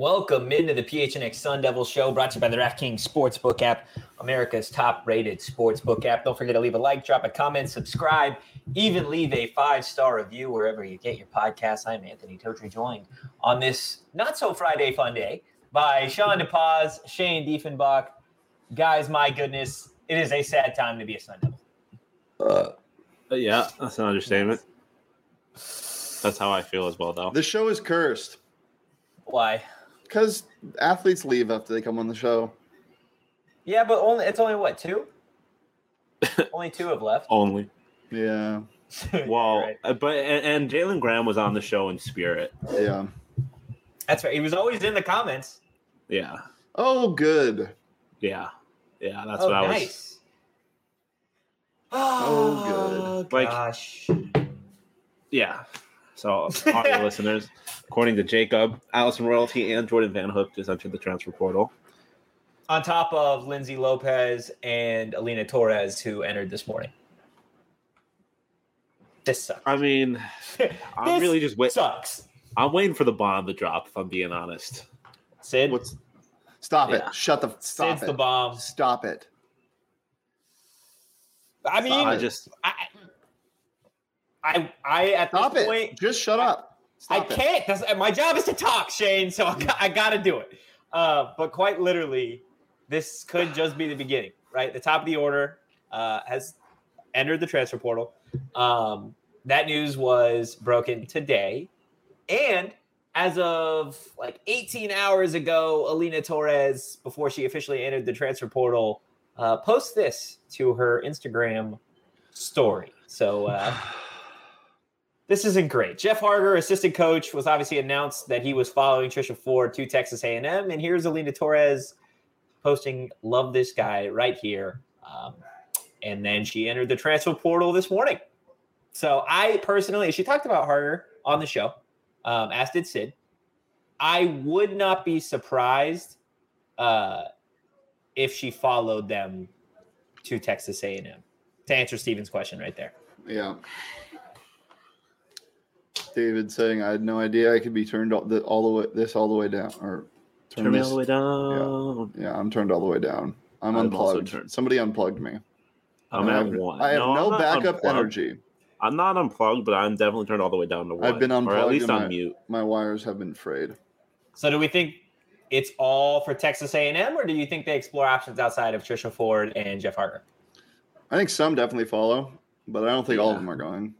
Welcome into the PHNX Sun Devil Show, brought to you by the DraftKings Sportsbook app, America's top-rated sportsbook app. Don't forget to leave a like, drop a comment, subscribe, even leave a 5-star review wherever you get your podcasts. I'm Anthony Totri, joined on this not-so-Friday fun day by Sean DePaz, Shane Diefenbach. Guys, my goodness, it is a sad time to be a Sun Devil. Yeah, that's an understatement. That's how I feel as well, though. The show is cursed. Why? Because athletes leave after they come on the show. Yeah, but it's only what, 2? Only 2 have left. Only. Yeah. Well, right. but Jalen Graham was on the show in spirit. Yeah. That's right. He was always in the comments. Yeah. Oh, good. Yeah. Yeah, that's what I was. Nice. Oh, good. Gosh. Yeah. So, audio listeners, according to Jacob, Allison Royalty and Jordan Van Hook just entered the transfer portal. On top of Lindsay Lopez and Alina Torres, who entered this morning. This sucks. I mean, I'm really just waiting. Sucks. I'm waiting for the bomb to drop, if I'm being honest. Sid? Stop Yeah. it. Stop Sid's it. the bomb. Stop it. I mean, I just... I at Stop this it. point, Just shut up. Stop I it. can't. My job is to talk, Shane, so I got to do it. But quite literally, this could just be the beginning, right? The top of the order has entered the transfer portal. That news was broken today. And as of like 18 hours ago, Alina Torres, before she officially entered the transfer portal, posts this to her Instagram story. So this isn't great. Jeff Harger, assistant coach, was obviously announced that he was following Trisha Ford to Texas A&M. And here's Alina Torres posting, "Love this guy," right here. And then she entered the transfer portal this morning. So I personally, she talked about Harger on the show, as did Sid. I would not be surprised if she followed them to Texas A&M. To answer Steven's question right there. Yeah. David saying, I had no idea I could be turned all the way down. Or Turn me all the way down. Yeah, I'm turned all the way down. I'm I'm also unplugged. turned. Somebody unplugged me. I'm I at have, 1. I have I'm no not backup unplugged. energy. I'm not unplugged, but I'm definitely turned all the way down to 1. I've been unplugged. Or at least and on mute. My wires have been frayed. So do we think it's all for Texas A&M, or do you think they explore options outside of Trisha Ford and Jeff Harger? I think some definitely follow, but I don't think all of Yeah. them are going.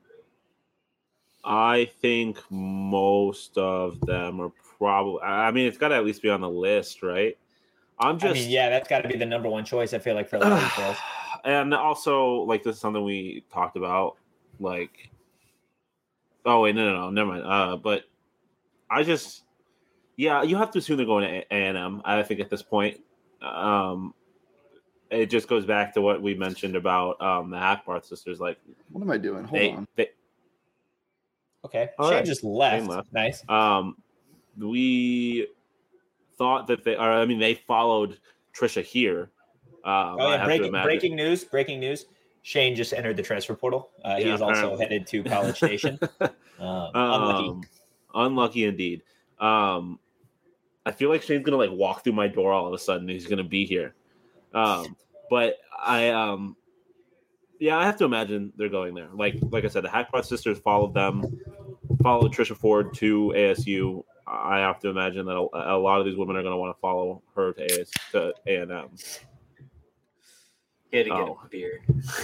I think most of them are probably. I mean, it's got to at least be on the list, right? That's got to be the number one choice, I feel like, for a lot of these girls. And also, like, this is something we talked about. Like, oh wait, no, never mind. But I just, yeah, you have to assume they're going to A&M. I think at this point, it just goes back to what we mentioned about the Hackbarth sisters. Like, What am I doing? Hold on. Okay. All Shane right. just left. Shane left. Nice. We thought that they followed Trisha here. Breaking news. Shane just entered the transfer portal. He is also headed to College Station. Unlucky indeed. I feel like Shane's gonna like walk through my door all of a sudden. He's gonna be here. But I have to imagine they're going there. Like I said, the Hackbarth sisters followed Trisha Ford to ASU. I have to imagine that a lot of these women are going to want to follow her to A&M. He had to get a beer.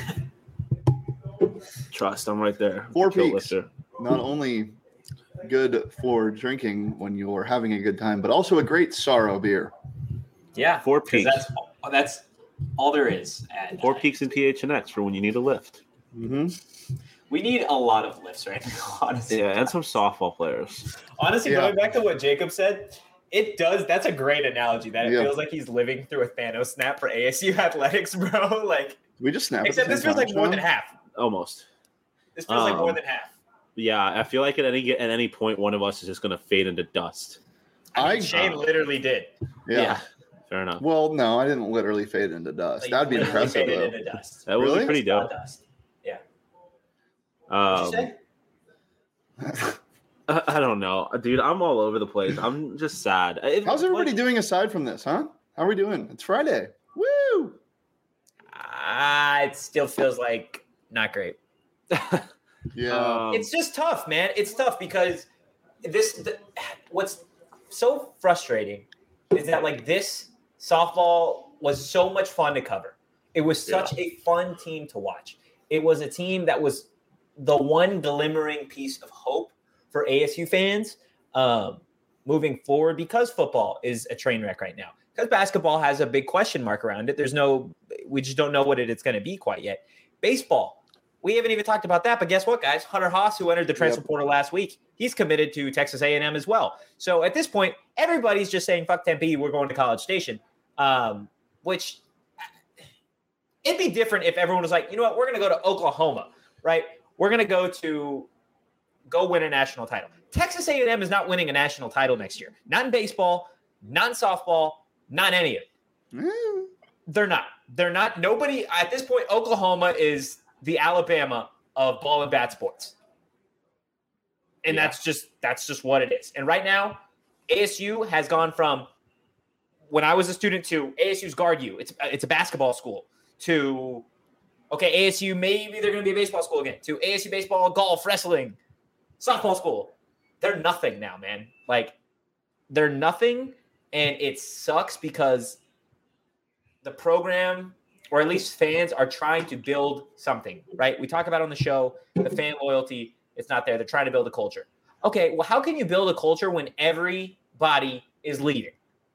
Trust, I'm right there. 4 Kill Peaks. lifter. Not only good for drinking when you're having a good time, but also a great sorrow beer. Yeah. 4 Peaks. That's all there is. 4 Peaks and PHNX for when you need a lift. Mm-hmm. We need a lot of lifts right now, honestly. Yeah, and some softball players. Honestly, Yeah. going back to what Jacob said, it does. That's a great analogy. That it Yeah. feels like he's living through a Thanos snap for ASU athletics, bro. Like, We just snapped. except this feels like more than half. Almost. This feels like more than half. Yeah, I feel like at any point one of us is just going to fade into dust. Shane literally did. Yeah. Fair enough. Well, no, I didn't literally fade into dust. Like, That'd be literally impressive, faded though. into dust. That would Really? be pretty dope. Dust. Yeah. What'd you say? I don't know, dude. I'm all over the place. I'm just sad. How's everybody doing aside from this, huh? How are we doing? It's Friday. Woo! It still feels like not great. Yeah. It's just tough, man. It's tough because what's so frustrating is that like this softball was so much fun to cover. It was such a fun team to watch. It was a team that was the one glimmering piece of hope for ASU fans moving forward, because football is a train wreck right now. Because basketball has a big question mark around it. We just don't know what it's going to be quite yet. Baseball, we haven't even talked about that. But guess what, guys? Hunter Haas, who entered the transfer portal last week, he's committed to Texas A&M as well. So at this point, everybody's just saying, fuck Tempe, we're going to College Station, which it'd be different if everyone was like, you know what, we're going to go to Oklahoma, right? We're going to go win a national title. Texas A&M is not winning a national title next year. Not in baseball, not in softball, not any of it. They're not. Nobody at this point. Oklahoma is the Alabama of ball and bat sports, and that's just what it is. And right now, ASU has gone from when I was a student to ASU's Guard U. It's a basketball school to ASU maybe they're going to be a baseball school again to ASU baseball, golf, wrestling, softball school. They're nothing now, man. Like they're nothing. And it sucks because the program, or at least fans, are trying to build something, right? We talk about on the show, the fan loyalty, it's not there. They're trying to build a culture. Okay, well, how can you build a culture when everybody is leaving?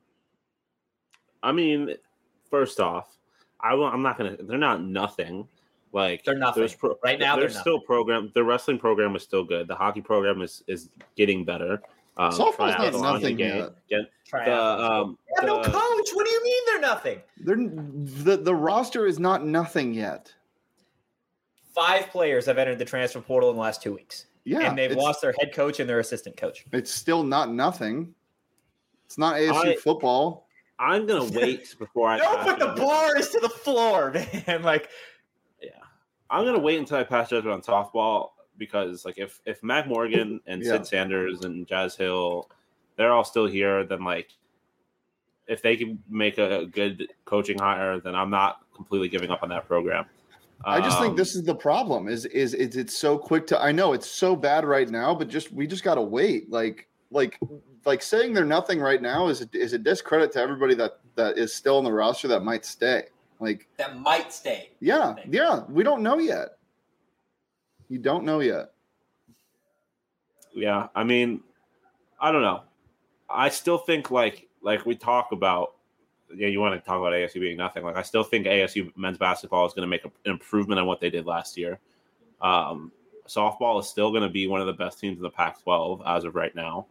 I mean, first off, I'm not going to – they're not nothing. Like they're nothing. Right now, they're still program. Their wrestling program is still good. The hockey program is getting better. Softball's not nothing yet. They have no coach. What do you mean they're nothing? The roster is not nothing yet. 5 players have entered the transfer portal in the last 2 weeks. Yeah, and they've lost their head coach and their assistant coach. It's still not nothing. It's not ASU football. I'm gonna wait before I. Don't put the bars to the floor, man. Like, yeah, I'm gonna wait until I pass judgment on softball. Because like if Mac Morgan and Sid Sanders and Jazz Hill, they're all still here, then like if they can make a good coaching hire, then I'm not completely giving up on that program. I just think this is the problem. Is it's so quick to. I know it's so bad right now, but we just gotta wait. Like saying they're nothing right now is a discredit to everybody that is still on the roster that might stay. Like that might stay. Yeah. We don't know yet. You don't know yet. Yeah, I mean, I don't know. I still think like we talk about. Yeah, you want to talk about ASU being nothing. Like I still think ASU men's basketball is going to make an improvement on what they did last year. Softball is still going to be one of the best teams in the Pac-12 as of right now.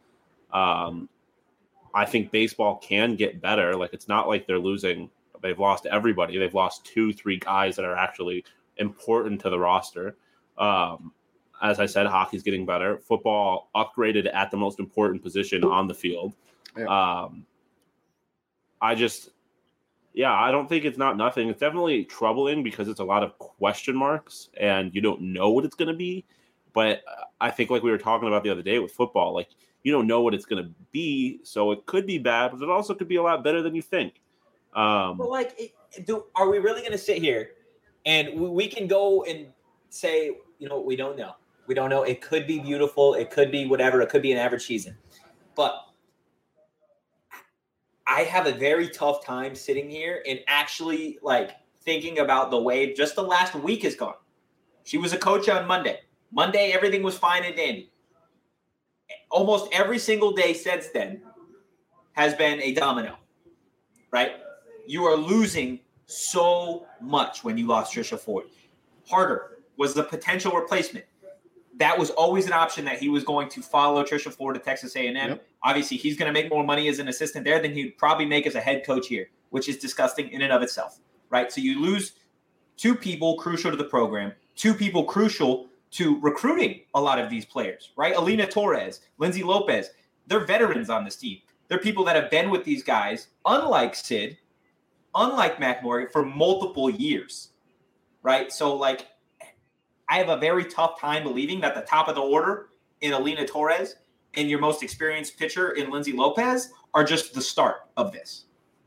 I think baseball can get better. Like it's not like they're losing. They've lost everybody. They've lost 2-3 guys that are actually important to the roster. As I said, hockey's getting better. Football upgraded at the most important position on the field. Yeah. I don't think it's not nothing. It's definitely troubling because it's a lot of question marks and you don't know what it's going to be. But I think like we were talking about the other day with football, like you don't know what it's going to be. So it could be bad, but it also could be a lot better than you think. But like, are we really going to sit here and we can go and say, you know, we don't know. We don't know. It could be beautiful. It could be whatever. It could be an average season. But I have a very tough time sitting here and actually like thinking about the way just the last week has gone. She was a coach on Monday. Monday, everything was fine and dandy. Almost every single day since then has been a domino, right? You are losing so much when you lost Trisha Ford. Harder was the potential replacement. That was always an option that he was going to follow Trisha Ford to Texas A&M. Yep. Obviously, he's going to make more money as an assistant there than he'd probably make as a head coach here, which is disgusting in and of itself, right? So you lose 2 people crucial to the program, 2 people crucial to recruiting a lot of these players, right? Alina Torres, Lindsay Lopez, they're veterans on this team. They're people that have been with these guys, unlike Sid, unlike Mac Morgan, for multiple years, right? So, I have a very tough time believing that the top of the order in Alina Torres and your most experienced pitcher in Lindsay Lopez are just the start of this.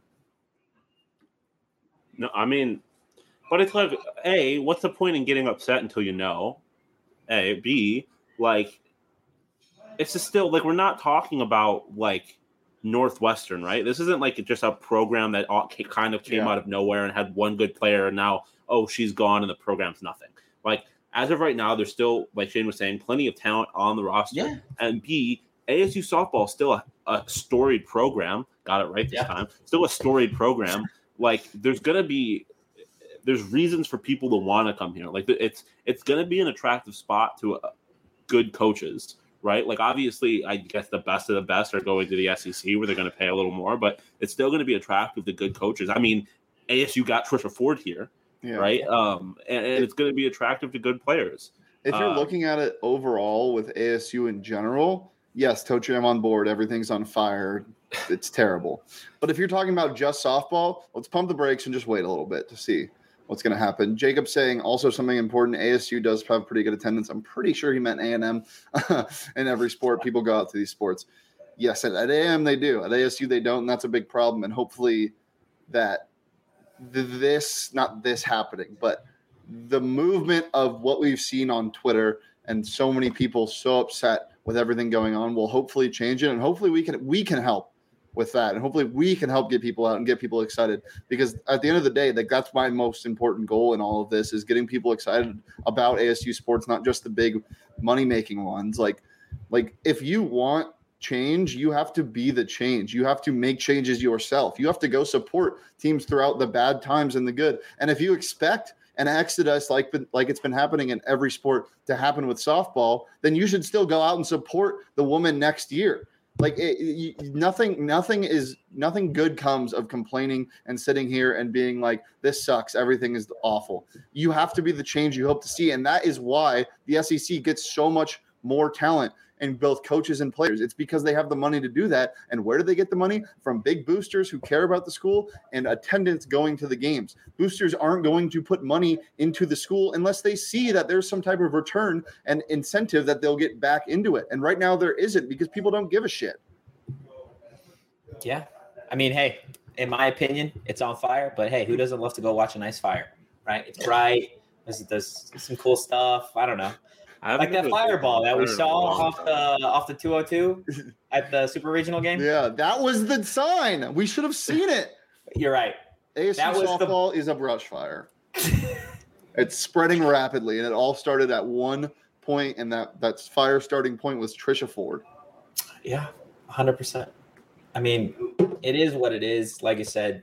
No, I mean, but it's like, A, what's the point in getting upset until you know? A, B, like, it's just still, like, we're not talking about, like, Northwestern, right? This isn't, like, just a program that kind of came out of nowhere and had one good player, and now, oh, she's gone and the program's nothing. Like, as of right now, there's still, like Shane was saying, plenty of talent on the roster. Yeah. And B, ASU softball is still a storied program. Got it right this time. Still a storied program. Like, there's reasons for people to want to come here. Like, it's going to be an attractive spot to good coaches, right? Like, obviously, I guess the best of the best are going to the SEC where they're going to pay a little more, but it's still going to be attractive to good coaches. I mean, ASU got Trisha Ford here, right? And it's going to be attractive to good players. If you're looking at it overall with ASU in general, yes, Tochi, I'm on board. Everything's on fire. It's terrible. But if you're talking about just softball, let's pump the brakes and just wait a little bit to see what's going to happen. Jacob saying also something important. ASU does have pretty good attendance. I'm pretty sure he meant A&M. In every sport, people go out to these sports. Yes, at A&M they do. At ASU they don't, and that's a big problem. And hopefully that not this happening, but the movement of what we've seen on Twitter and so many people so upset with everything going on will hopefully change it. And hopefully we can help with that. And hopefully we can help get people out and get people excited, because at the end of the day, like, that's my most important goal in all of this, is getting people excited about ASU sports, not just the big money-making ones. Like if you want change, you have to be the change. You have to make changes yourself. You have to go support teams throughout the bad times and the good. And if you expect an exodus like it's been happening in every sport to happen with softball, then you should still go out and support the woman next year. Like, nothing good comes of complaining and sitting here and being like, this sucks, everything is awful. You have to be the change you hope to see, and that is why the SEC gets so much more talent in both coaches and players. It's because they have the money to do that. And where do they get the money? From big boosters who care about the school and attendance going to the games. Boosters aren't going to put money into the school unless they see that there's some type of return and incentive that they'll get back into it. And right now there isn't, because people don't give a shit. Yeah. I mean, hey, in my opinion, it's on fire, but hey, who doesn't love to go watch a nice fire, right? It's bright. There's some cool stuff. I don't know. Like that fireball that we saw off the 202 at the Super Regional game. Yeah, that was the sign. We should have seen it. You're right. ASU softball is a brush fire. It's spreading rapidly, and it all started at one point, and that fire starting point was Trisha Ford. Yeah, 100%. I mean, it is what it is. Like I said,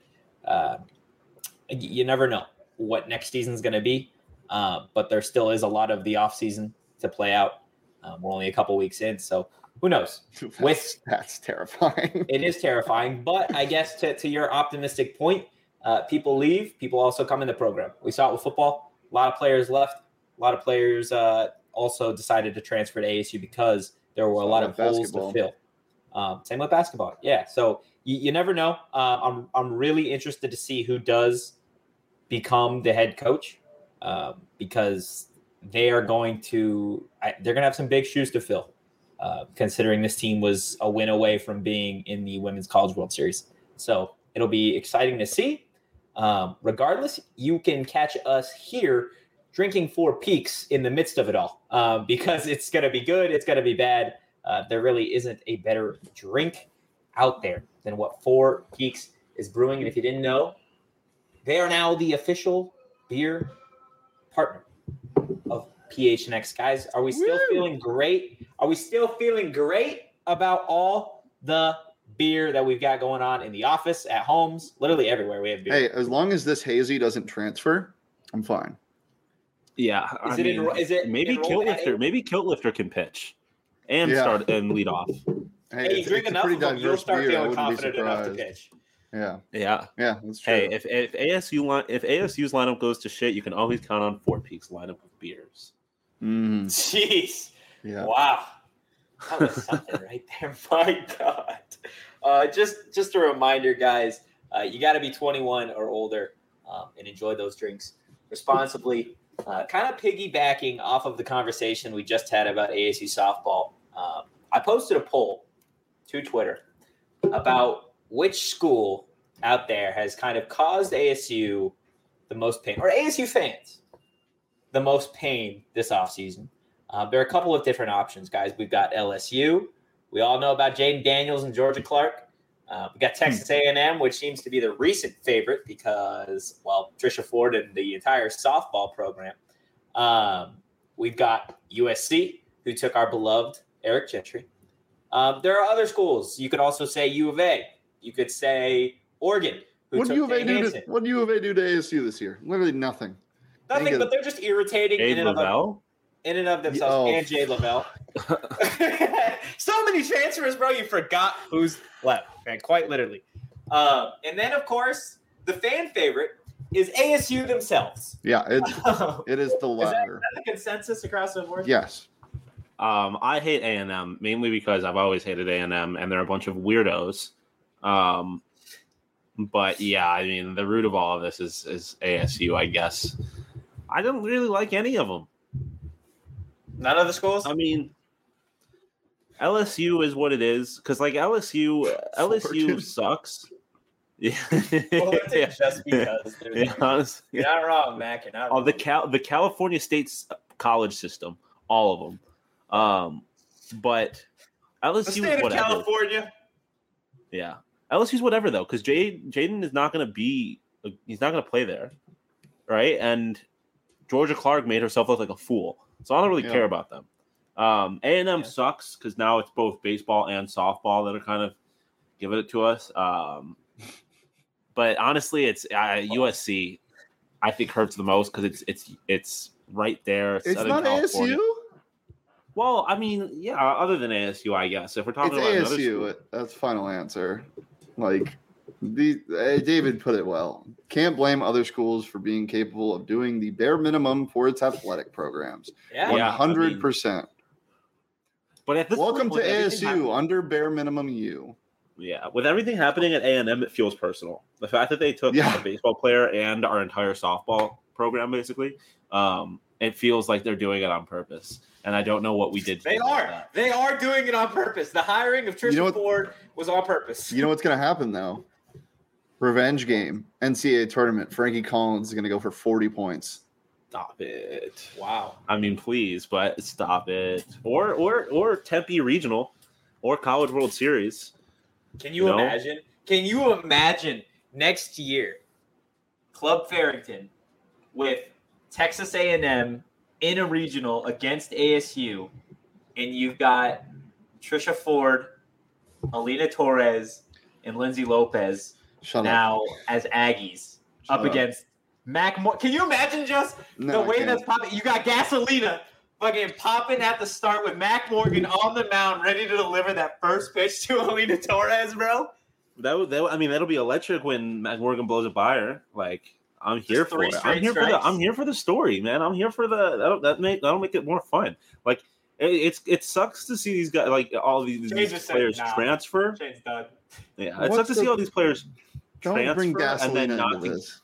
you never know what next season's going to be, but there still is a lot of the offseason to play out. We're only a couple weeks in, so who knows? That's terrifying. It is terrifying, but I guess to your optimistic point, people leave, people also come in the program. We saw it with football. A lot of players left. A lot of players also decided to transfer to ASU because there were a lot of holes to fill. Same with basketball. Yeah, so you never know. I'm really interested to see who does become the head coach, because they're going to have some big shoes to fill, considering this team was a win away from being in the Women's College World Series. So it'll be exciting to see. Regardless, you can catch us here drinking Four Peaks in the midst of it all, because it's going to be good. It's going to be bad. There really isn't a better drink out there than what Four Peaks is brewing. And if you didn't know, they are now the official beer partner of PHNX. Guys, are we still feeling great? Are we still feeling great about all the beer that we've got going on in the office, at homes, literally everywhere we have beer? Hey, as long as this hazy doesn't transfer, I'm fine. Yeah. Maybe Kilt Lifter can pitch and start and lead off. Hey, you drink enough of them, you'll start feeling confident enough to pitch. Yeah, that's true. Hey, if ASU's lineup goes to shit, you can always count on Four Peaks lineup of beers. Jeez. Yeah. Wow. That was something right there. My God. Just a reminder, guys, you got to be 21 or older and enjoy those drinks responsibly. Kind of piggybacking off of the conversation we just had about ASU softball. I posted a poll to Twitter about which school out there has kind of caused ASU the most pain, or ASU fans the most pain this offseason. There are a couple of different options, guys. We've got LSU. We all know about Jaden Daniels and Georgia Clark. We got Texas A&M, which seems to be the recent favorite because, well, Trisha Ford and the entire softball program. We've got USC, who took our beloved Eric Gentry. There are other schools. You could also say U of A. You could say Oregon, who What took do U of A Jay do? Hansen. What do U of A do to ASU this year? Literally nothing. Nothing, but they're just irritating Abe Lavelle? in and of themselves. And Jay Lavelle. So many transfers, bro. You forgot who's left, man. Quite literally. And then, of course, the fan favorite is ASU themselves. Yeah, it is the latter. Is that the consensus across the board? Yes. I hate A&M mainly because I've always hated A&M, and they're a bunch of weirdos. But yeah, I mean, the root of all of this is ASU, I guess. I don't really like any of them. None of the schools? I mean, LSU is what it is because, like, LSU sucks. Yeah, Just because. Honestly. You're not wrong, Mac. You're not wrong. The California State's college system, all of them. But LSU the state is of whatever. California. Yeah, LSU's whatever though, because Jaden is not going to be. He's not going to play there, right? And Georgia Clark made herself look like a fool, so I don't really care about them. A&M sucks because now it's both baseball and softball that are kind of giving it to us. But honestly, it's USC. I think hurts the most because it's right there. It's not California. ASU. Well, I mean, yeah. Other than ASU, I guess if we're talking about ASU, school, that's final answer. Like David put it well. Can't blame other schools for being capable of doing the bare minimum for its athletic programs. 100%. But at this welcome point, to ASU under bare minimum U. Yeah, with everything happening at A&M, it feels personal. The fact that they took a baseball player and our entire softball program, basically, it feels like they're doing it on purpose. And I don't know what we did. They are doing it on purpose. The hiring of Trisha Ford was on purpose. You know what's going to happen, though? Revenge game, NCAA tournament. Frankie Collins is going to go for 40 points. Stop it. Wow. I mean, please, but stop it. Or Tempe Regional or College World Series. Can you imagine? Can you imagine next year, Club Farrington with Texas A&M in a regional against ASU, and you've got Trisha Ford, Alina Torres, and Lindsay Lopez as Aggies up against Mac. Can you imagine just the way that's popping? You got Gasolina fucking popping at the start with Mac Morgan on the mound, ready to deliver that first pitch to Alina Torres, bro. That'll be electric when Mac Morgan blows it by her. Like, I'm here for it. I'm here for the story, man. I'm here for that'll make it more fun. Like, it sucks to see these guys, like all these players transfer. Shane's done. Yeah, it sucks to see all these players transfer bring and then not into this.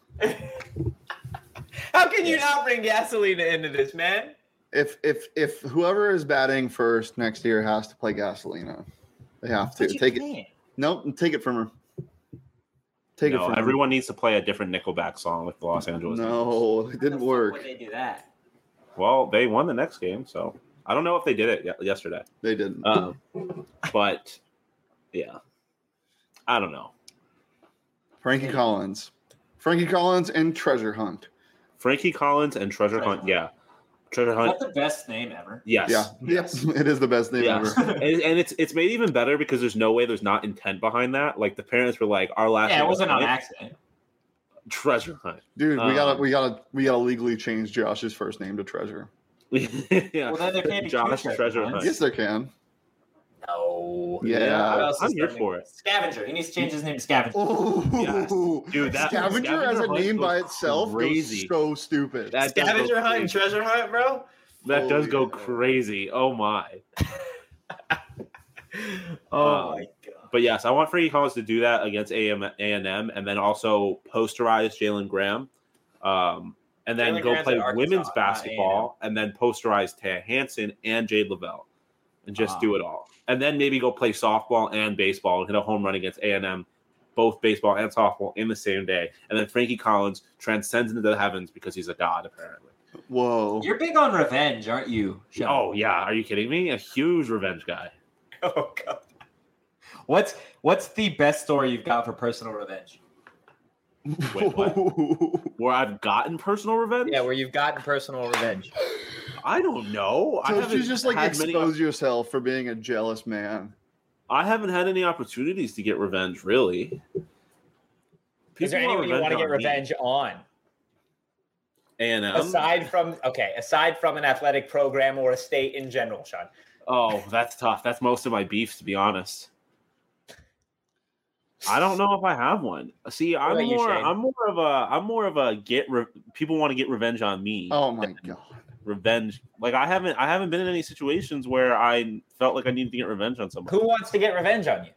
How can you not bring Gasolina into this, man? If whoever is batting first next year has to play Gasolina, they have to take it. Nope, take it from her. Take it from everyone needs to play a different Nickelback song with the Los Angeles. No, it didn't work. Why would they do that? Well, they won the next game, so I don't know if they did it yesterday. They didn't. But yeah, I don't know. Frankie Collins and Treasure Hunt. Frankie Collins and Treasure Hunt. Yeah. Treasure Hunt. Is that the best name ever? Yes. Yeah. Yes. It is the best name ever. and it's made even better because there's no way there's not intent behind that. Like the parents were like, our last name it wasn't on accident. Treasure Hunt. Dude, we gotta legally change Josh's first name to Treasure. Yeah. Well, then there can't be Josh Treasure Hunt. Yes, there can. No. Yeah. I'm here for it. Scavenger. He needs to change his name to Scavenger. Oh, yes. Dude, Scavenger as a name by itself is so stupid. Scavenger Hunt and Treasure Hunt, bro? That does go crazy. Oh, my. Oh, my God. But, yes, I want Frankie Collins to do that against A&M and then also posterize Jalen Graham. And then go play women's basketball and then posterize Taya Hansen and Jade Lavelle. and just do it all. And then maybe go play softball and baseball and hit a home run against A&M, both baseball and softball in the same day. And then Frankie Collins transcends into the heavens because he's a god, apparently. Whoa. You're big on revenge, aren't you, Sean? Oh, yeah. Are you kidding me? A huge revenge guy. Oh, God. What's the best story you've got for personal revenge? Wait, what? Where I've gotten personal revenge? Yeah, where you've gotten personal revenge. I don't know. So haven't you just like had many- expose yourself for being a jealous man. I haven't had any opportunities to get revenge, really. Is there anyone you want to get revenge on? A&M? Aside from an athletic program or a state in general, Sean. Oh, that's tough. That's most of my beefs, to be honest. I don't know if I have one. See, I'm more of a people want to get revenge on me. Oh my God. Revenge. Like I haven't been in any situations where I felt like I needed to get revenge on someone. Who wants to get revenge on you?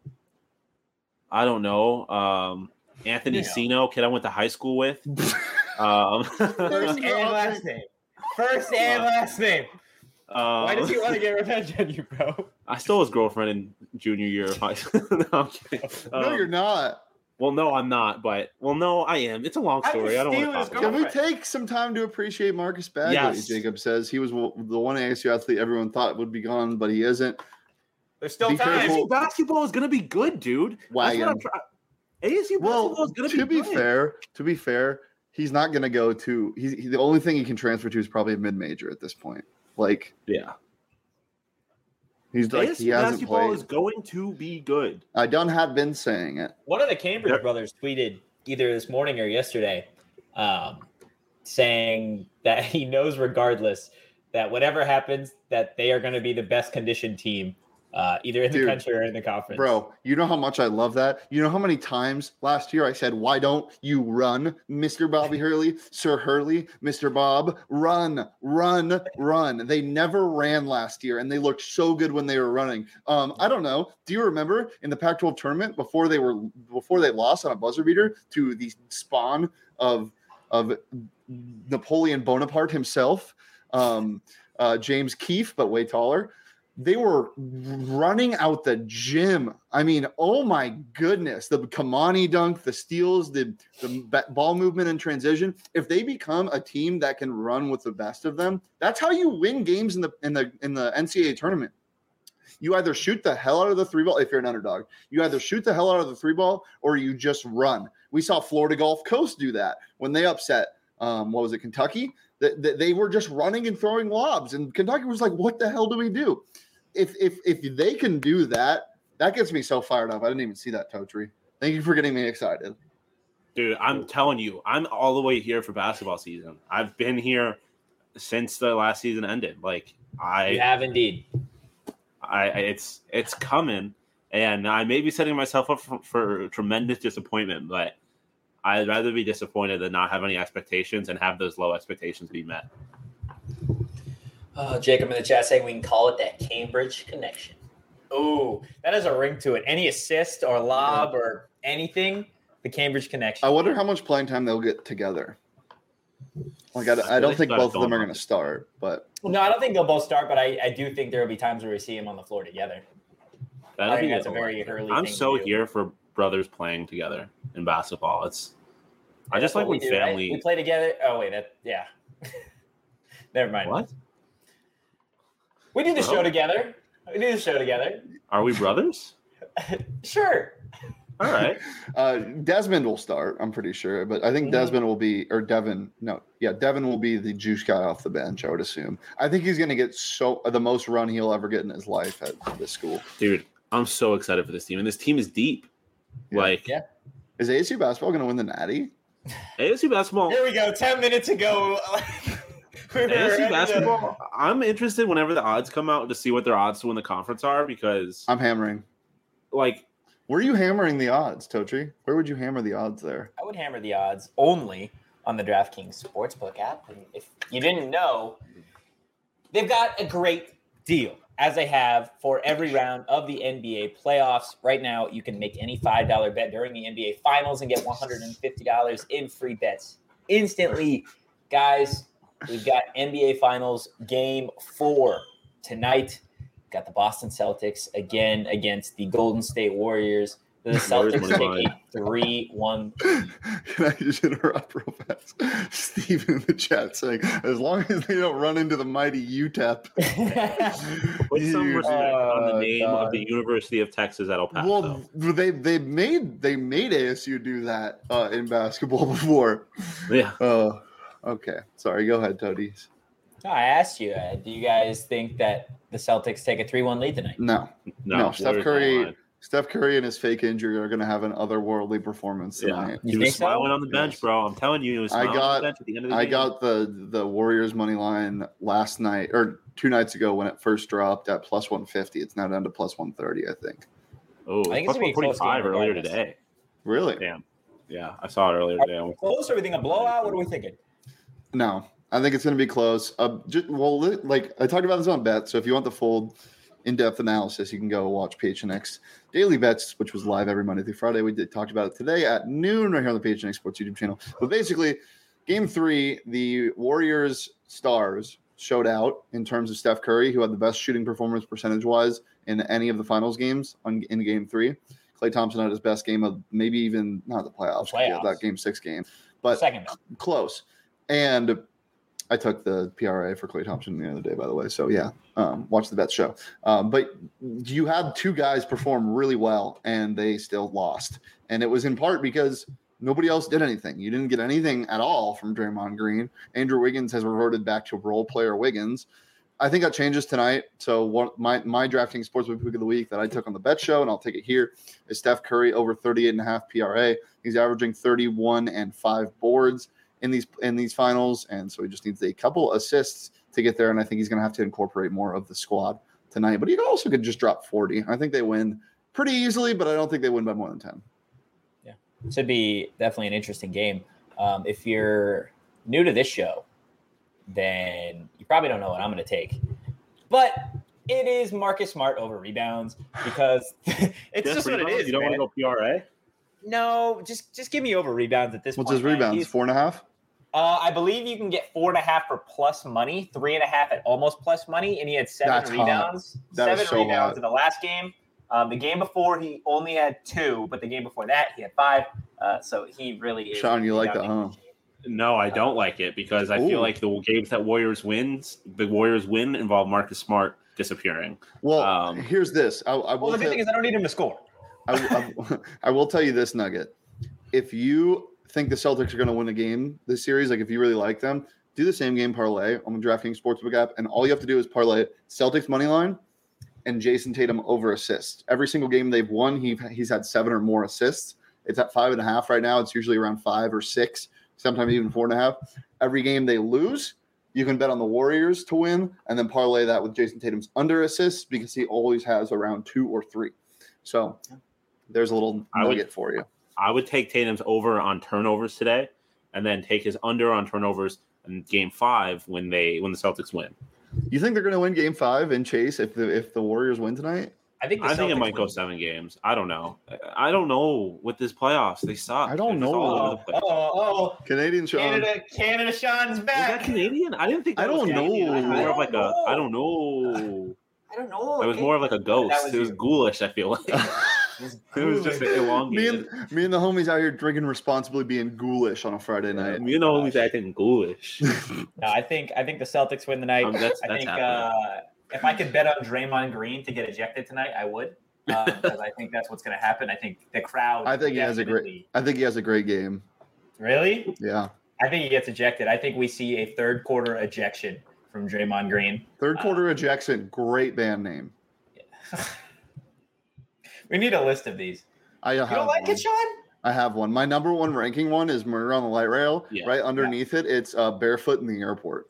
I don't know. Anthony Sino, kid I went to high school with. First and last name. First and last name. Why does he want to get revenge on you, bro? I stole his girlfriend in junior year of high school. No, I'm kidding. No, you're not. Well, no, I'm not. But no, I am. It's a long story. I don't want to talk Can about it. we take some time to appreciate Marcus Bagley? Yes. Jacob says he was the one ASU athlete everyone thought would be gone, but he isn't. There's still Be time. careful. ASU basketball is going to be good, dude. Wagon. ASU basketball is going to be good. To be fair, he's not going to go to. The only thing he can transfer to is probably a mid-major at this point. Like, Yeah. he's like ASU he hasn't basketball played. is going to be good. I done have been saying it. One of the Cambridge brothers tweeted either this morning or yesterday, saying that he knows regardless that whatever happens, that they are going to be the best conditioned team, either in the country or in the conference. Bro, you know how much I love that? You know how many times last year I said, why don't you run, Mr. Bobby Hurley, Sir Hurley, Mr. Bob, run, run, run. They never ran last year, and they looked so good when they were running. I don't know. Do you remember in the Pac-12 tournament before they lost on a buzzer beater to the spawn of Napoleon Bonaparte himself, James Keefe, but way taller? They were running out the gym. I mean, oh my goodness. The Kamani dunk, the steals, the ball movement and transition. If they become a team that can run with the best of them, that's how you win games in the NCAA tournament. You either shoot the hell out of the three ball if you're an underdog. You either shoot the hell out of the three ball or you just run. We saw Florida Gulf Coast do that when they upset Kentucky? They were just running and throwing lobs, and Kentucky was like, what the hell do we do? If they can do that, that gets me so fired up. I didn't even see that, Totri. Thank you for getting me excited. Dude, I'm telling you, I'm all the way here for basketball season. I've been here since the last season ended. You have indeed. It's coming, and I may be setting myself up for tremendous disappointment, but I'd rather be disappointed than not have any expectations and have those low expectations be met. Jacob in the chat saying we can call it that Cambridge connection. Oh, that has a ring to it. Any assist or lob or anything, the Cambridge connection. I wonder how much playing time they'll get together. I don't think both of them are going to start, but no, I don't think they'll both start. But I do think there will be times where we see them on the floor together. I think that's a very early. I'm thing so to do. here for brothers playing together in basketball. I just like when family. Right? We play together. Oh wait, never mind. What? We do the show together. Are we brothers? Sure. All right. Desmond will start, I'm pretty sure, but I think Desmond will be, or Devin. No, yeah, Devin will be the juice guy off the bench, I would assume. I think he's going to get the most run he'll ever get in his life at this school. Dude, I'm so excited for this team, and this team is deep. Yeah. Is ASU basketball going to win the Natty? ASU basketball. Here we go. 10 minutes ago. ASU basketball. I'm interested whenever the odds come out to see what their odds to win the conference are because I'm hammering. Where are you hammering the odds, Totri? Where would you hammer the odds there? I would hammer the odds only on the DraftKings Sportsbook app. And if you didn't know, they've got a great deal, as they have for every round of the NBA playoffs. Right now, you can make any $5 bet during the NBA Finals and get $150 in free bets instantly. Guys, we've got NBA Finals Game 4 tonight. got the Boston Celtics again against the Golden State Warriors. The Warriors Celtics money take a 3-1. Can I just interrupt real fast? Steven in the chat saying, as long as they don't run into the mighty UTEP. Put some Dude. respect on the name God. of the University of Texas at El Paso. Well, they made ASU do that in basketball before. Yeah. Okay. Sorry. Go ahead, Toadies. No, I asked you, do you guys think that the Celtics take a 3-1 lead tonight? No. No, Steph Curry and his fake injury are going to have an otherworldly performance tonight. He was think so? smiling on the bench, Yes. bro. I'm telling you, he was smiling on the bench at the end of the game. I got the Warriors money line last night or 2 nights ago when it first dropped at plus 150. It's now down to plus 130, I think. Oh, I think plus it's gonna be a close 145 game earlier regardless. today. Really? Damn. Yeah, I saw it earlier today. Close, everything a blowout? What are we thinking? No, I think it's going to be close. Like I talked about this on Bet. So if you want the full in-depth analysis, you can go watch PHNX Daily Bets, which was live every Monday through Friday. We talked about it today at noon right here on the PHNX Sports YouTube channel. But basically, Game 3, the Warriors stars showed out in terms of Steph Curry, who had the best shooting performance percentage-wise in any of the finals games in Game 3. Klay Thompson had his best game of maybe even not the playoffs. Yeah, that Game 6 game, but Second. close. And I took the PRA for Klay Thompson the other day, by the way. So yeah, watch the Bet show. But you had 2 guys perform really well, and they still lost. And it was in part because nobody else did anything. You didn't get anything at all from Draymond Green. Andrew Wiggins has reverted back to role player Wiggins. I think that changes tonight. So my drafting sportsbook pick of the week that I took on the Bet show, and I'll take it here, is Steph Curry over 38.5 PRA. He's averaging 31 and 5 boards in these finals, and so he just needs a couple assists to get there, and I think he's going to have to incorporate more of the squad tonight. But he also could just drop 40. I think they win pretty easily, but I don't think they win by more than 10. Yeah, should be definitely an interesting game. If you're new to this show, then you probably don't know what I'm going to take. But it is Marcus Smart over rebounds because it's just what it is. You don't want to go PRA? No, just give me over rebounds at this point. What's his rebounds? 4.5? I believe you can get 4.5 for plus money, 3.5 at almost plus money, and he had 7 That's rebounds. Hot. That 7 rebounds in the last game. The game before he only had 2, but the game before that he had 5. So he really is. Sean, you like that, huh? No, I don't like it because I feel like the games that Warriors win involve Marcus Smart disappearing. Well, here's this. The good thing is I don't need him to score. I will tell you this nugget. If you think the Celtics are going to win a game this series, like if you really like them, do the same game parlay on the DraftKings Sportsbook app, and all you have to do is parlay Celtics money line and Jason Tatum over assists. Every single game they've won, he's had 7 or more assists. It's at 5.5 right now. It's usually around 5 or 6, sometimes even 4.5. Every game they lose, you can bet on the Warriors to win, and then parlay that with Jason Tatum's under assists because he always has around 2 or 3. So there's a little nugget for you. I would take Tatum's over on turnovers today, and then take his under on turnovers in Game 5 when the Celtics win. You think they're going to win Game 5 in Chase if the Warriors win tonight? I think it might go 7 games. I don't know. I don't know with this playoffs. They suck. I don't know. Canadian Sean. Canada Sean's back. Was that Canadian? I didn't think. I don't know. I don't know. It was more of like a ghost. It was ghoulish. I feel like. It was just elongated. Me and the homies out here drinking responsibly, being ghoulish on a Friday night. Me and the homies acting ghoulish. No, I think the Celtics win the night. I think if I could bet on Draymond Green to get ejected tonight, I would. Because I think that's what's going to happen. I think the crowd. I think he has a great game. Really? Yeah. I think he gets ejected. I think we see a third quarter ejection from Draymond Green. Third quarter ejection. Great band name. Yeah. We need a list of these. You don't like it, Sean? I have one. My number 1 ranking one is Murder on the Light Rail. Yeah. Right underneath it, it's Barefoot in the Airport.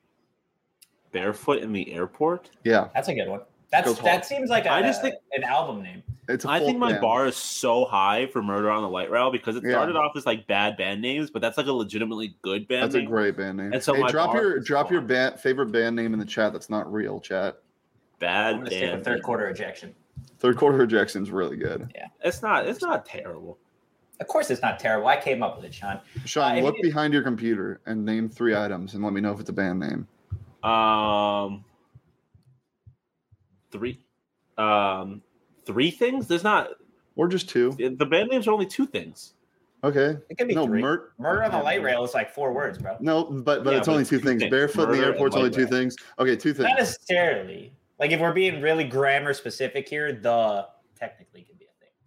Barefoot in the Airport? Yeah. That's a good one. That seems like an album name. I think my bar is so high for Murder on the Light Rail because it started off as like bad band names, but that's like a legitimately good band name. That's a great band name. And so drop your favorite band name in the chat. That's not real, chat. I'm gonna say third quarter ejection. Third quarter ejection is really good. Yeah, it's not terrible. Of course, it's not terrible. I came up with it, Sean. Sean, look behind your computer and name 3 items, and let me know if it's a band name. Three things? There's not. Or just two. The band names are only two things. Okay. It could be No, three. Murder on the Light Rail is like 4 words, bro. No, but Yeah, it's only but two two things. things. Barefoot in the Murder and airport's only light two rail. things. Okay, two things. Not necessarily. Like if we're being really grammar specific here, the technically could be a thing.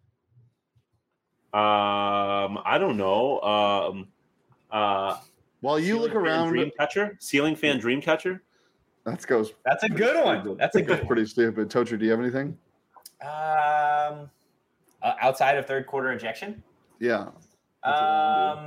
I don't know. While you look around, Ceiling fan Dreamcatcher. that goes That's a good one. That's a good one. pretty stupid. Tocher, do you have anything? Outside of third quarter ejection. Yeah. That's what I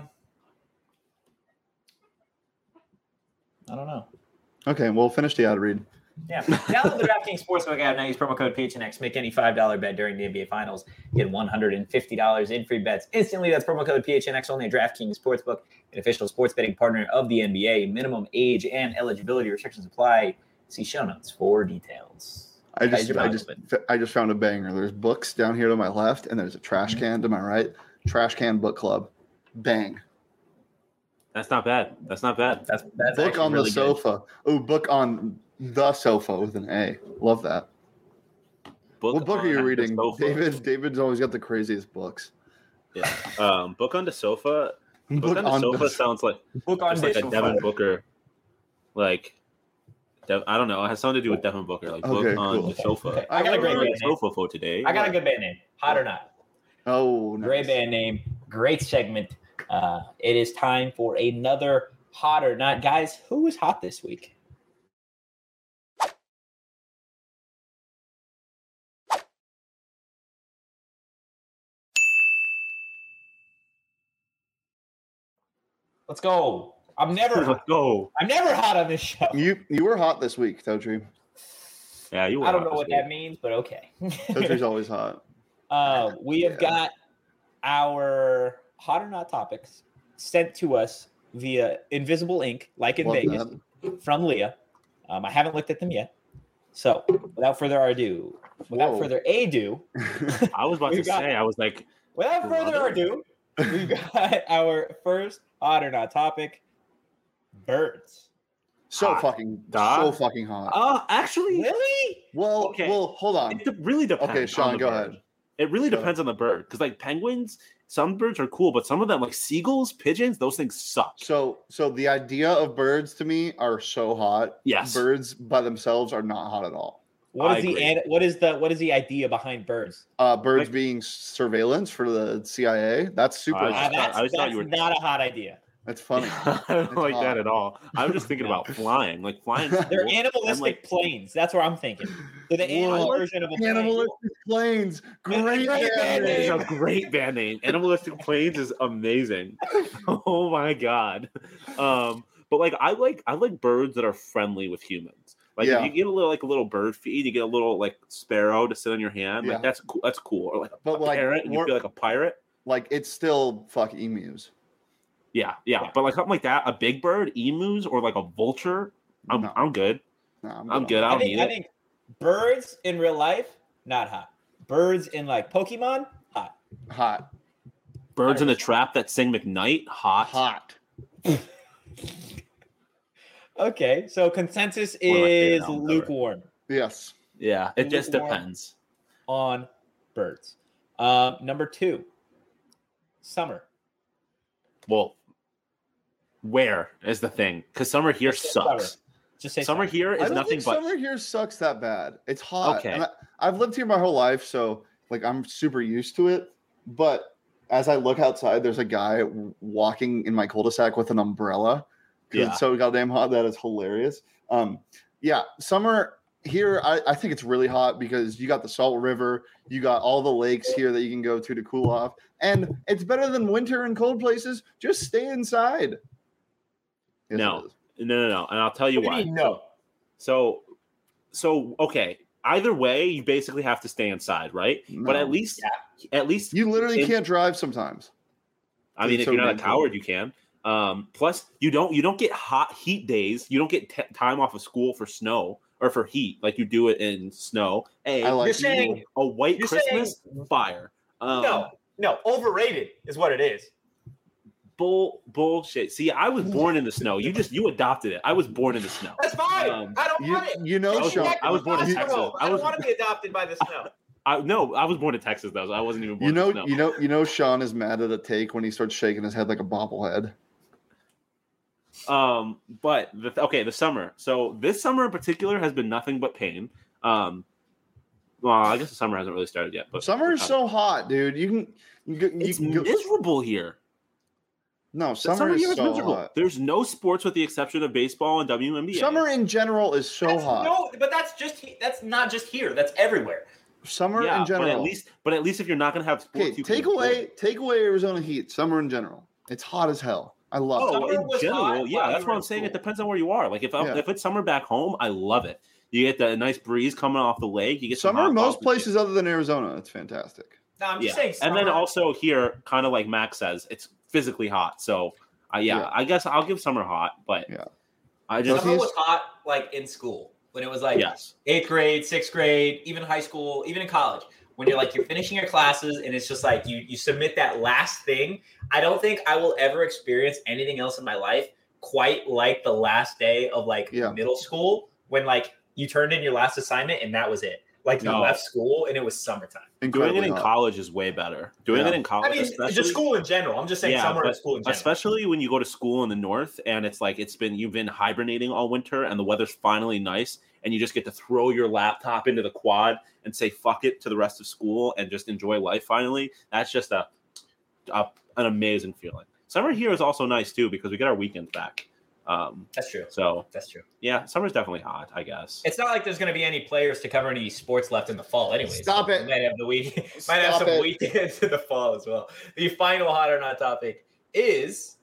I don't know. Okay, we'll finish the ad read. Yeah. Download the DraftKings Sportsbook app now. Use promo code PHNX. Make any $5 bet during the NBA Finals. Get $150 in free bets instantly. That's promo code PHNX only at DraftKings Sportsbook, an official sports betting partner of the NBA. Minimum age and eligibility restrictions apply. See show notes for details. I just found a banger. There's books down here to my left, and there's a trash can to my right. Trash can book club. Bang. That's not bad. That's not bad. That's Book on really the sofa. Oh, book on the sofa with an A. Love that. What book are you reading? David's always got the craziest books. Yeah. Book on the sofa. Book on the sofa sounds like book on like a Devin Booker. Like I don't know. It has something to do with Devin Booker. Like book on the sofa. Okay. I got a great band name. Sofa for today. I got a good band name. Hot or not? Oh, nice. Great band name. Great segment. It is time for another hot or not. Guys, who was hot this week? Let's go. Let's go. I'm never hot on this show. You were hot this week, Totri. Yeah, you were. I don't know what that means, but okay. Totri's always hot. We have got our hot or not topics sent to us via Invisible Ink, like in Love Vegas, from Leah. I haven't looked at them yet. So without further ado, Without I was about to say, I was like, without further ado, we got our first hot or not topic: birds. so fucking hot. Actually, Really? Well, okay. well, hold on. It really depends. Okay, Sean, on the go bird. ahead. It really Go depends on the bird because, like penguins, some birds are cool, but some of them, like seagulls, pigeons, those things suck. So the idea of birds to me are so hot. Yes. Birds by themselves are not hot at all. What is the idea behind birds? Birds being surveillance for the CIA. That's super hot. I thought you were not a hot idea. That's funny. I don't like hot. that at all. I'm just thinking about flying. Like flying. They're animalistic planes. That's what I'm thinking. They're the animal version of a plane. Animalistic planes. Great band It's name. a great band name. Animalistic Planes is amazing. Oh my god. But like I like birds that are friendly with humans. Like if you get a little bird feed, you get a little like sparrow to sit on your hand. Like that's cool. That's cool. Or like a parrot, and you feel like a pirate. Like it's still fuck emus. Yeah. But like something like that, a big bird, emus, or like a vulture, I'm good. No, I'm good. I think birds in real life, not hot. Birds in like Pokemon, hot. Hot. Birds in the trap that sing McKnight, hot. Okay, so consensus is lukewarm. Yes. Yeah, it just depends on birds. Number 2, summer. Well, where is the thing? Because summer here sucks. Summer. Just say summer here is nothing but summer here sucks that bad. It's hot. Okay. And I've lived here my whole life, so like I'm super used to it. But as I look outside, there's a guy walking in my cul-de-sac with an umbrella. Yeah. It's so goddamn hot. That is hilarious. Summer here, I think it's really hot because you got the Salt River, you got all the lakes here that you can go to cool off, and it's better than winter in cold places. Just stay inside. Yes, No, and I'll tell you why. No. So okay. Either way, you basically have to stay inside, right? No. But at least you literally can't drive sometimes. I mean, if so you're not a ridiculous. coward, you can. Plus, you don't get hot heat days. You don't get time off of school for snow or for heat like you do it in snow. Hey, I You're saying a white you're Christmas fire. no, overrated is what it is. Bullshit. See, I was born in the snow. You adopted it. I was born in the snow. That's fine. I don't want it. You know, Sean, I was born in Texas. I don't want to be adopted by the snow. I was born in Texas though, so I wasn't even born in the snow. You know, Sean is mad at a take when he starts shaking his head like a bobblehead. But the summer. So this summer in particular has been nothing but pain. Well, I guess the summer hasn't really started yet. But summer is so hot, dude. It's miserable here. No, summer is so miserable. Hot. There's no sports with the exception of baseball and WNBA. Summer in general is so hot. No, but that's not just here. That's everywhere. Summer in general. But at least if you're not going to have sports, take away Arizona heat. Summer in general, it's hot as hell. I love it. In general, yeah, that's what I'm saying. It depends on where you are. Like if it's summer back home, I love it. You get the nice breeze coming off the lake. You get summer most places other than Arizona. It's fantastic. No, I'm just saying. Summer. And then also here, kind of like Max says, it's physically hot. So I guess I'll give summer hot. But summer was hot like in school when it was like 8th grade, 6th grade, even high school, even in college. When you're finishing your classes and it's just like you submit that last thing. I don't think I will ever experience anything else in my life quite like the last day of middle school when you turned in your last assignment and that was it. You left school and it was summertime. Doing it in college is way better. Doing it in college, especially just school in general. I'm just saying summer and school in general. Especially when you go to school in the north and it's you've been hibernating all winter and the weather's finally nice and you just get to throw your laptop into the quad and say fuck it to the rest of school and just enjoy life finally. That's just an amazing feeling. Summer here is also nice too because we get our weekends back. That's true. So that's true. Yeah, summer's definitely hot, I guess. It's not like there's going to be any players to cover any sports left in the fall, anyways. Stop it. Might have some weekends in the fall as well. The final hot or not topic is,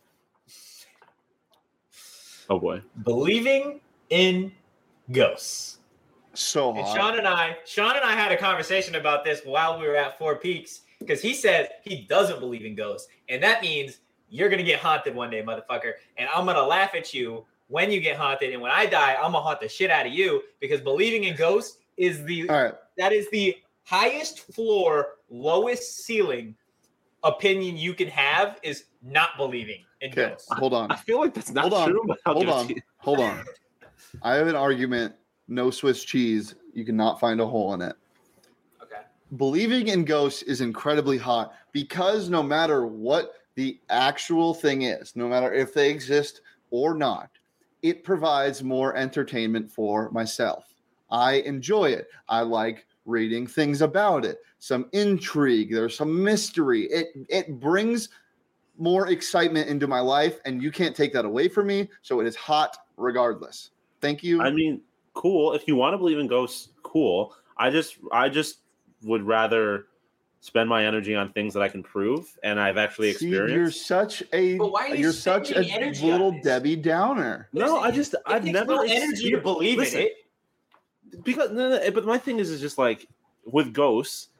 oh boy, believing in ghosts. So hot. And Sean and I had a conversation about this while we were at Four Peaks because he said he doesn't believe in ghosts, and that means you're going to get haunted one day, motherfucker. And I'm going to laugh at you when you get haunted. And when I die, I'm going to haunt the shit out of you because believing in ghosts is that is the highest floor, lowest ceiling opinion you can have is not believing in ghosts. Hold on. I feel like that's not true. Hold on. I have an argument. No Swiss cheese. You cannot find a hole in it. Okay. Believing in ghosts is incredibly hot because no matter what the actual thing is, no matter if they exist or not, it provides more entertainment for myself. I enjoy it. I like reading things about it. Some intrigue. There's some mystery. It brings more excitement into my life, and you can't take that away from me. So it is hot regardless. Thank you. I mean, cool. If you want to believe in ghosts, cool. I just would rather spend my energy on things that I can prove and I've actually experienced. You're such a little Debbie Downer. No, I've never energy to believe in it. Because but my thing is just with ghosts,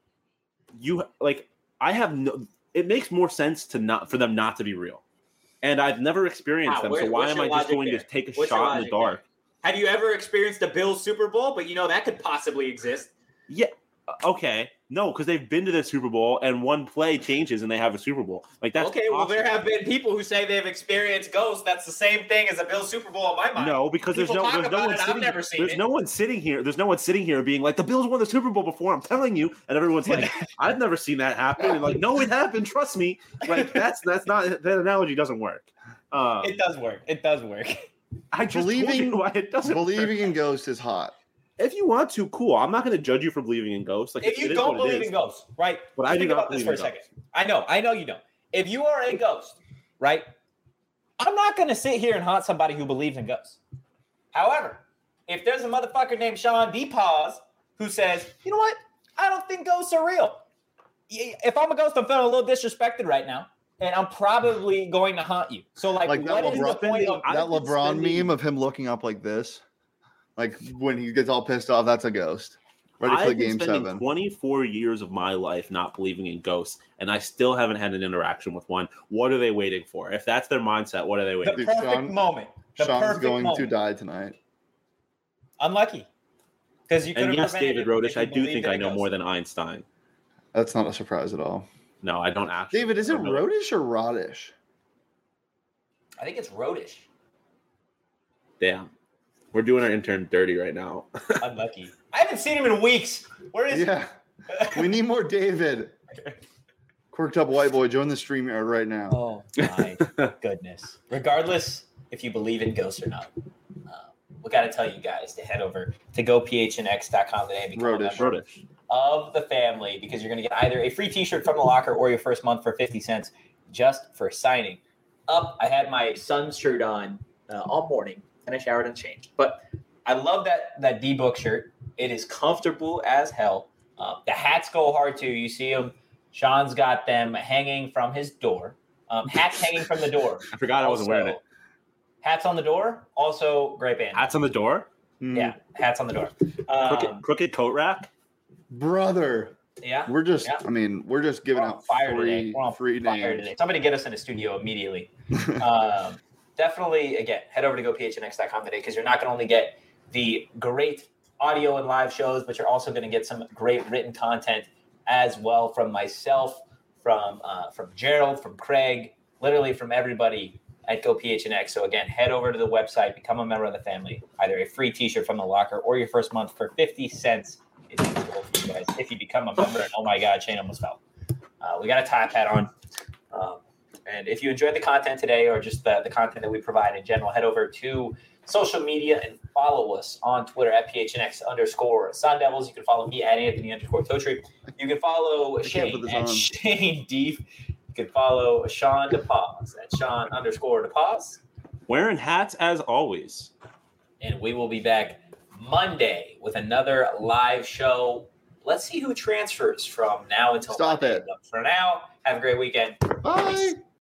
it makes more sense for them not to be real. And I've never experienced them, so why am I just going to take a shot in the dark? Have you ever experienced a Bills Super Bowl? But that could possibly exist. Yeah. Okay. No, because they've been to the Super Bowl and one play changes and they have a Super Bowl. That's okay. Possible. Well, there have been people who say they've experienced ghosts. That's the same thing as a Bills Super Bowl in my mind. No, because there's no one sitting here. There's no one sitting here being like, the Bills won the Super Bowl before. I'm telling you, and everyone's like, I've never seen that happen. And no, it happened. Trust me. That's not that analogy doesn't work. It does work. It does work. I just believing why it doesn't. Believing in ghosts is hot. If you want to, cool. I'm not going to judge you for believing in ghosts. If you don't believe in ghosts, right? But I do not believe in ghosts. Think about this for a second. I know you don't. If you are a ghost, right? I'm not going to sit here and haunt somebody who believes in ghosts. However, if there's a motherfucker named Sean D. Paz who says, you know what? I don't think ghosts are real. If I'm a ghost, I'm feeling a little disrespected right now. And I'm probably going to haunt you. So, what is the point of that LeBron meme of him looking up like this? When he gets all pissed off, that's a ghost. Ready for the game 7. 24 years of my life not believing in ghosts, and I still haven't had an interaction with one. What are they waiting for? If that's their mindset, what are they waiting for? The perfect moment. Sean's going to die tonight. Unlucky. Because you could have yes, David Rodish, I do think I know more than Einstein. That's not a surprise at all. No, I don't actually. David, is it Rodish or Rodish? I think it's Rodish. Damn. We're doing our intern dirty right now. Unlucky. I haven't seen him in weeks. Where is Yeah. We need more David. Quirked up white boy, join the stream right now. Oh, my goodness. Regardless if you believe in ghosts or not, we got to tell you guys to head over to gophnx.com today and become a member of the family, because you're going to get either a free t-shirt from the locker or your first month for 50 cents just for signing up. I had my son's shirt on all morning, and I showered and changed. But I love that D-Book shirt. It is comfortable as hell. The hats go hard, too. You see them. Sean's got them hanging from his door. Hats hanging from the door. I forgot I wasn't wearing it. Hats on the door. Also, great band. Hats on the door? Yeah, hats on the door. Crooked coat rack? Brother. Yeah. We're just, yeah. I mean, we're just giving out free names. Today. Somebody get us in the studio immediately. Definitely, again, head over to gophnx.com today, because you're not going to only get the great audio and live shows, but you're also going to get some great written content as well from myself, from Gerald, from Craig, literally from everybody at GoPHNX. So again, head over to the website, become a member of the family, either a free t-shirt from the locker or your first month for 50 cents is in store for you guys if you become a member. And oh my God, Shane almost fell. We got a top hat on. And if you enjoyed the content today, or just the content that we provide in general, head over to social media and follow us on Twitter at PHNX_Sun Devils. You can follow me at Anthony_Totri. You can follow Shane at Shane Deef. You can follow Sean DePaz at Sean_DePaz. Wearing hats as always. And we will be back Monday with another live show. Let's see who transfers from now until Stop Monday. it. But for now, have a great weekend. Bye. Peace.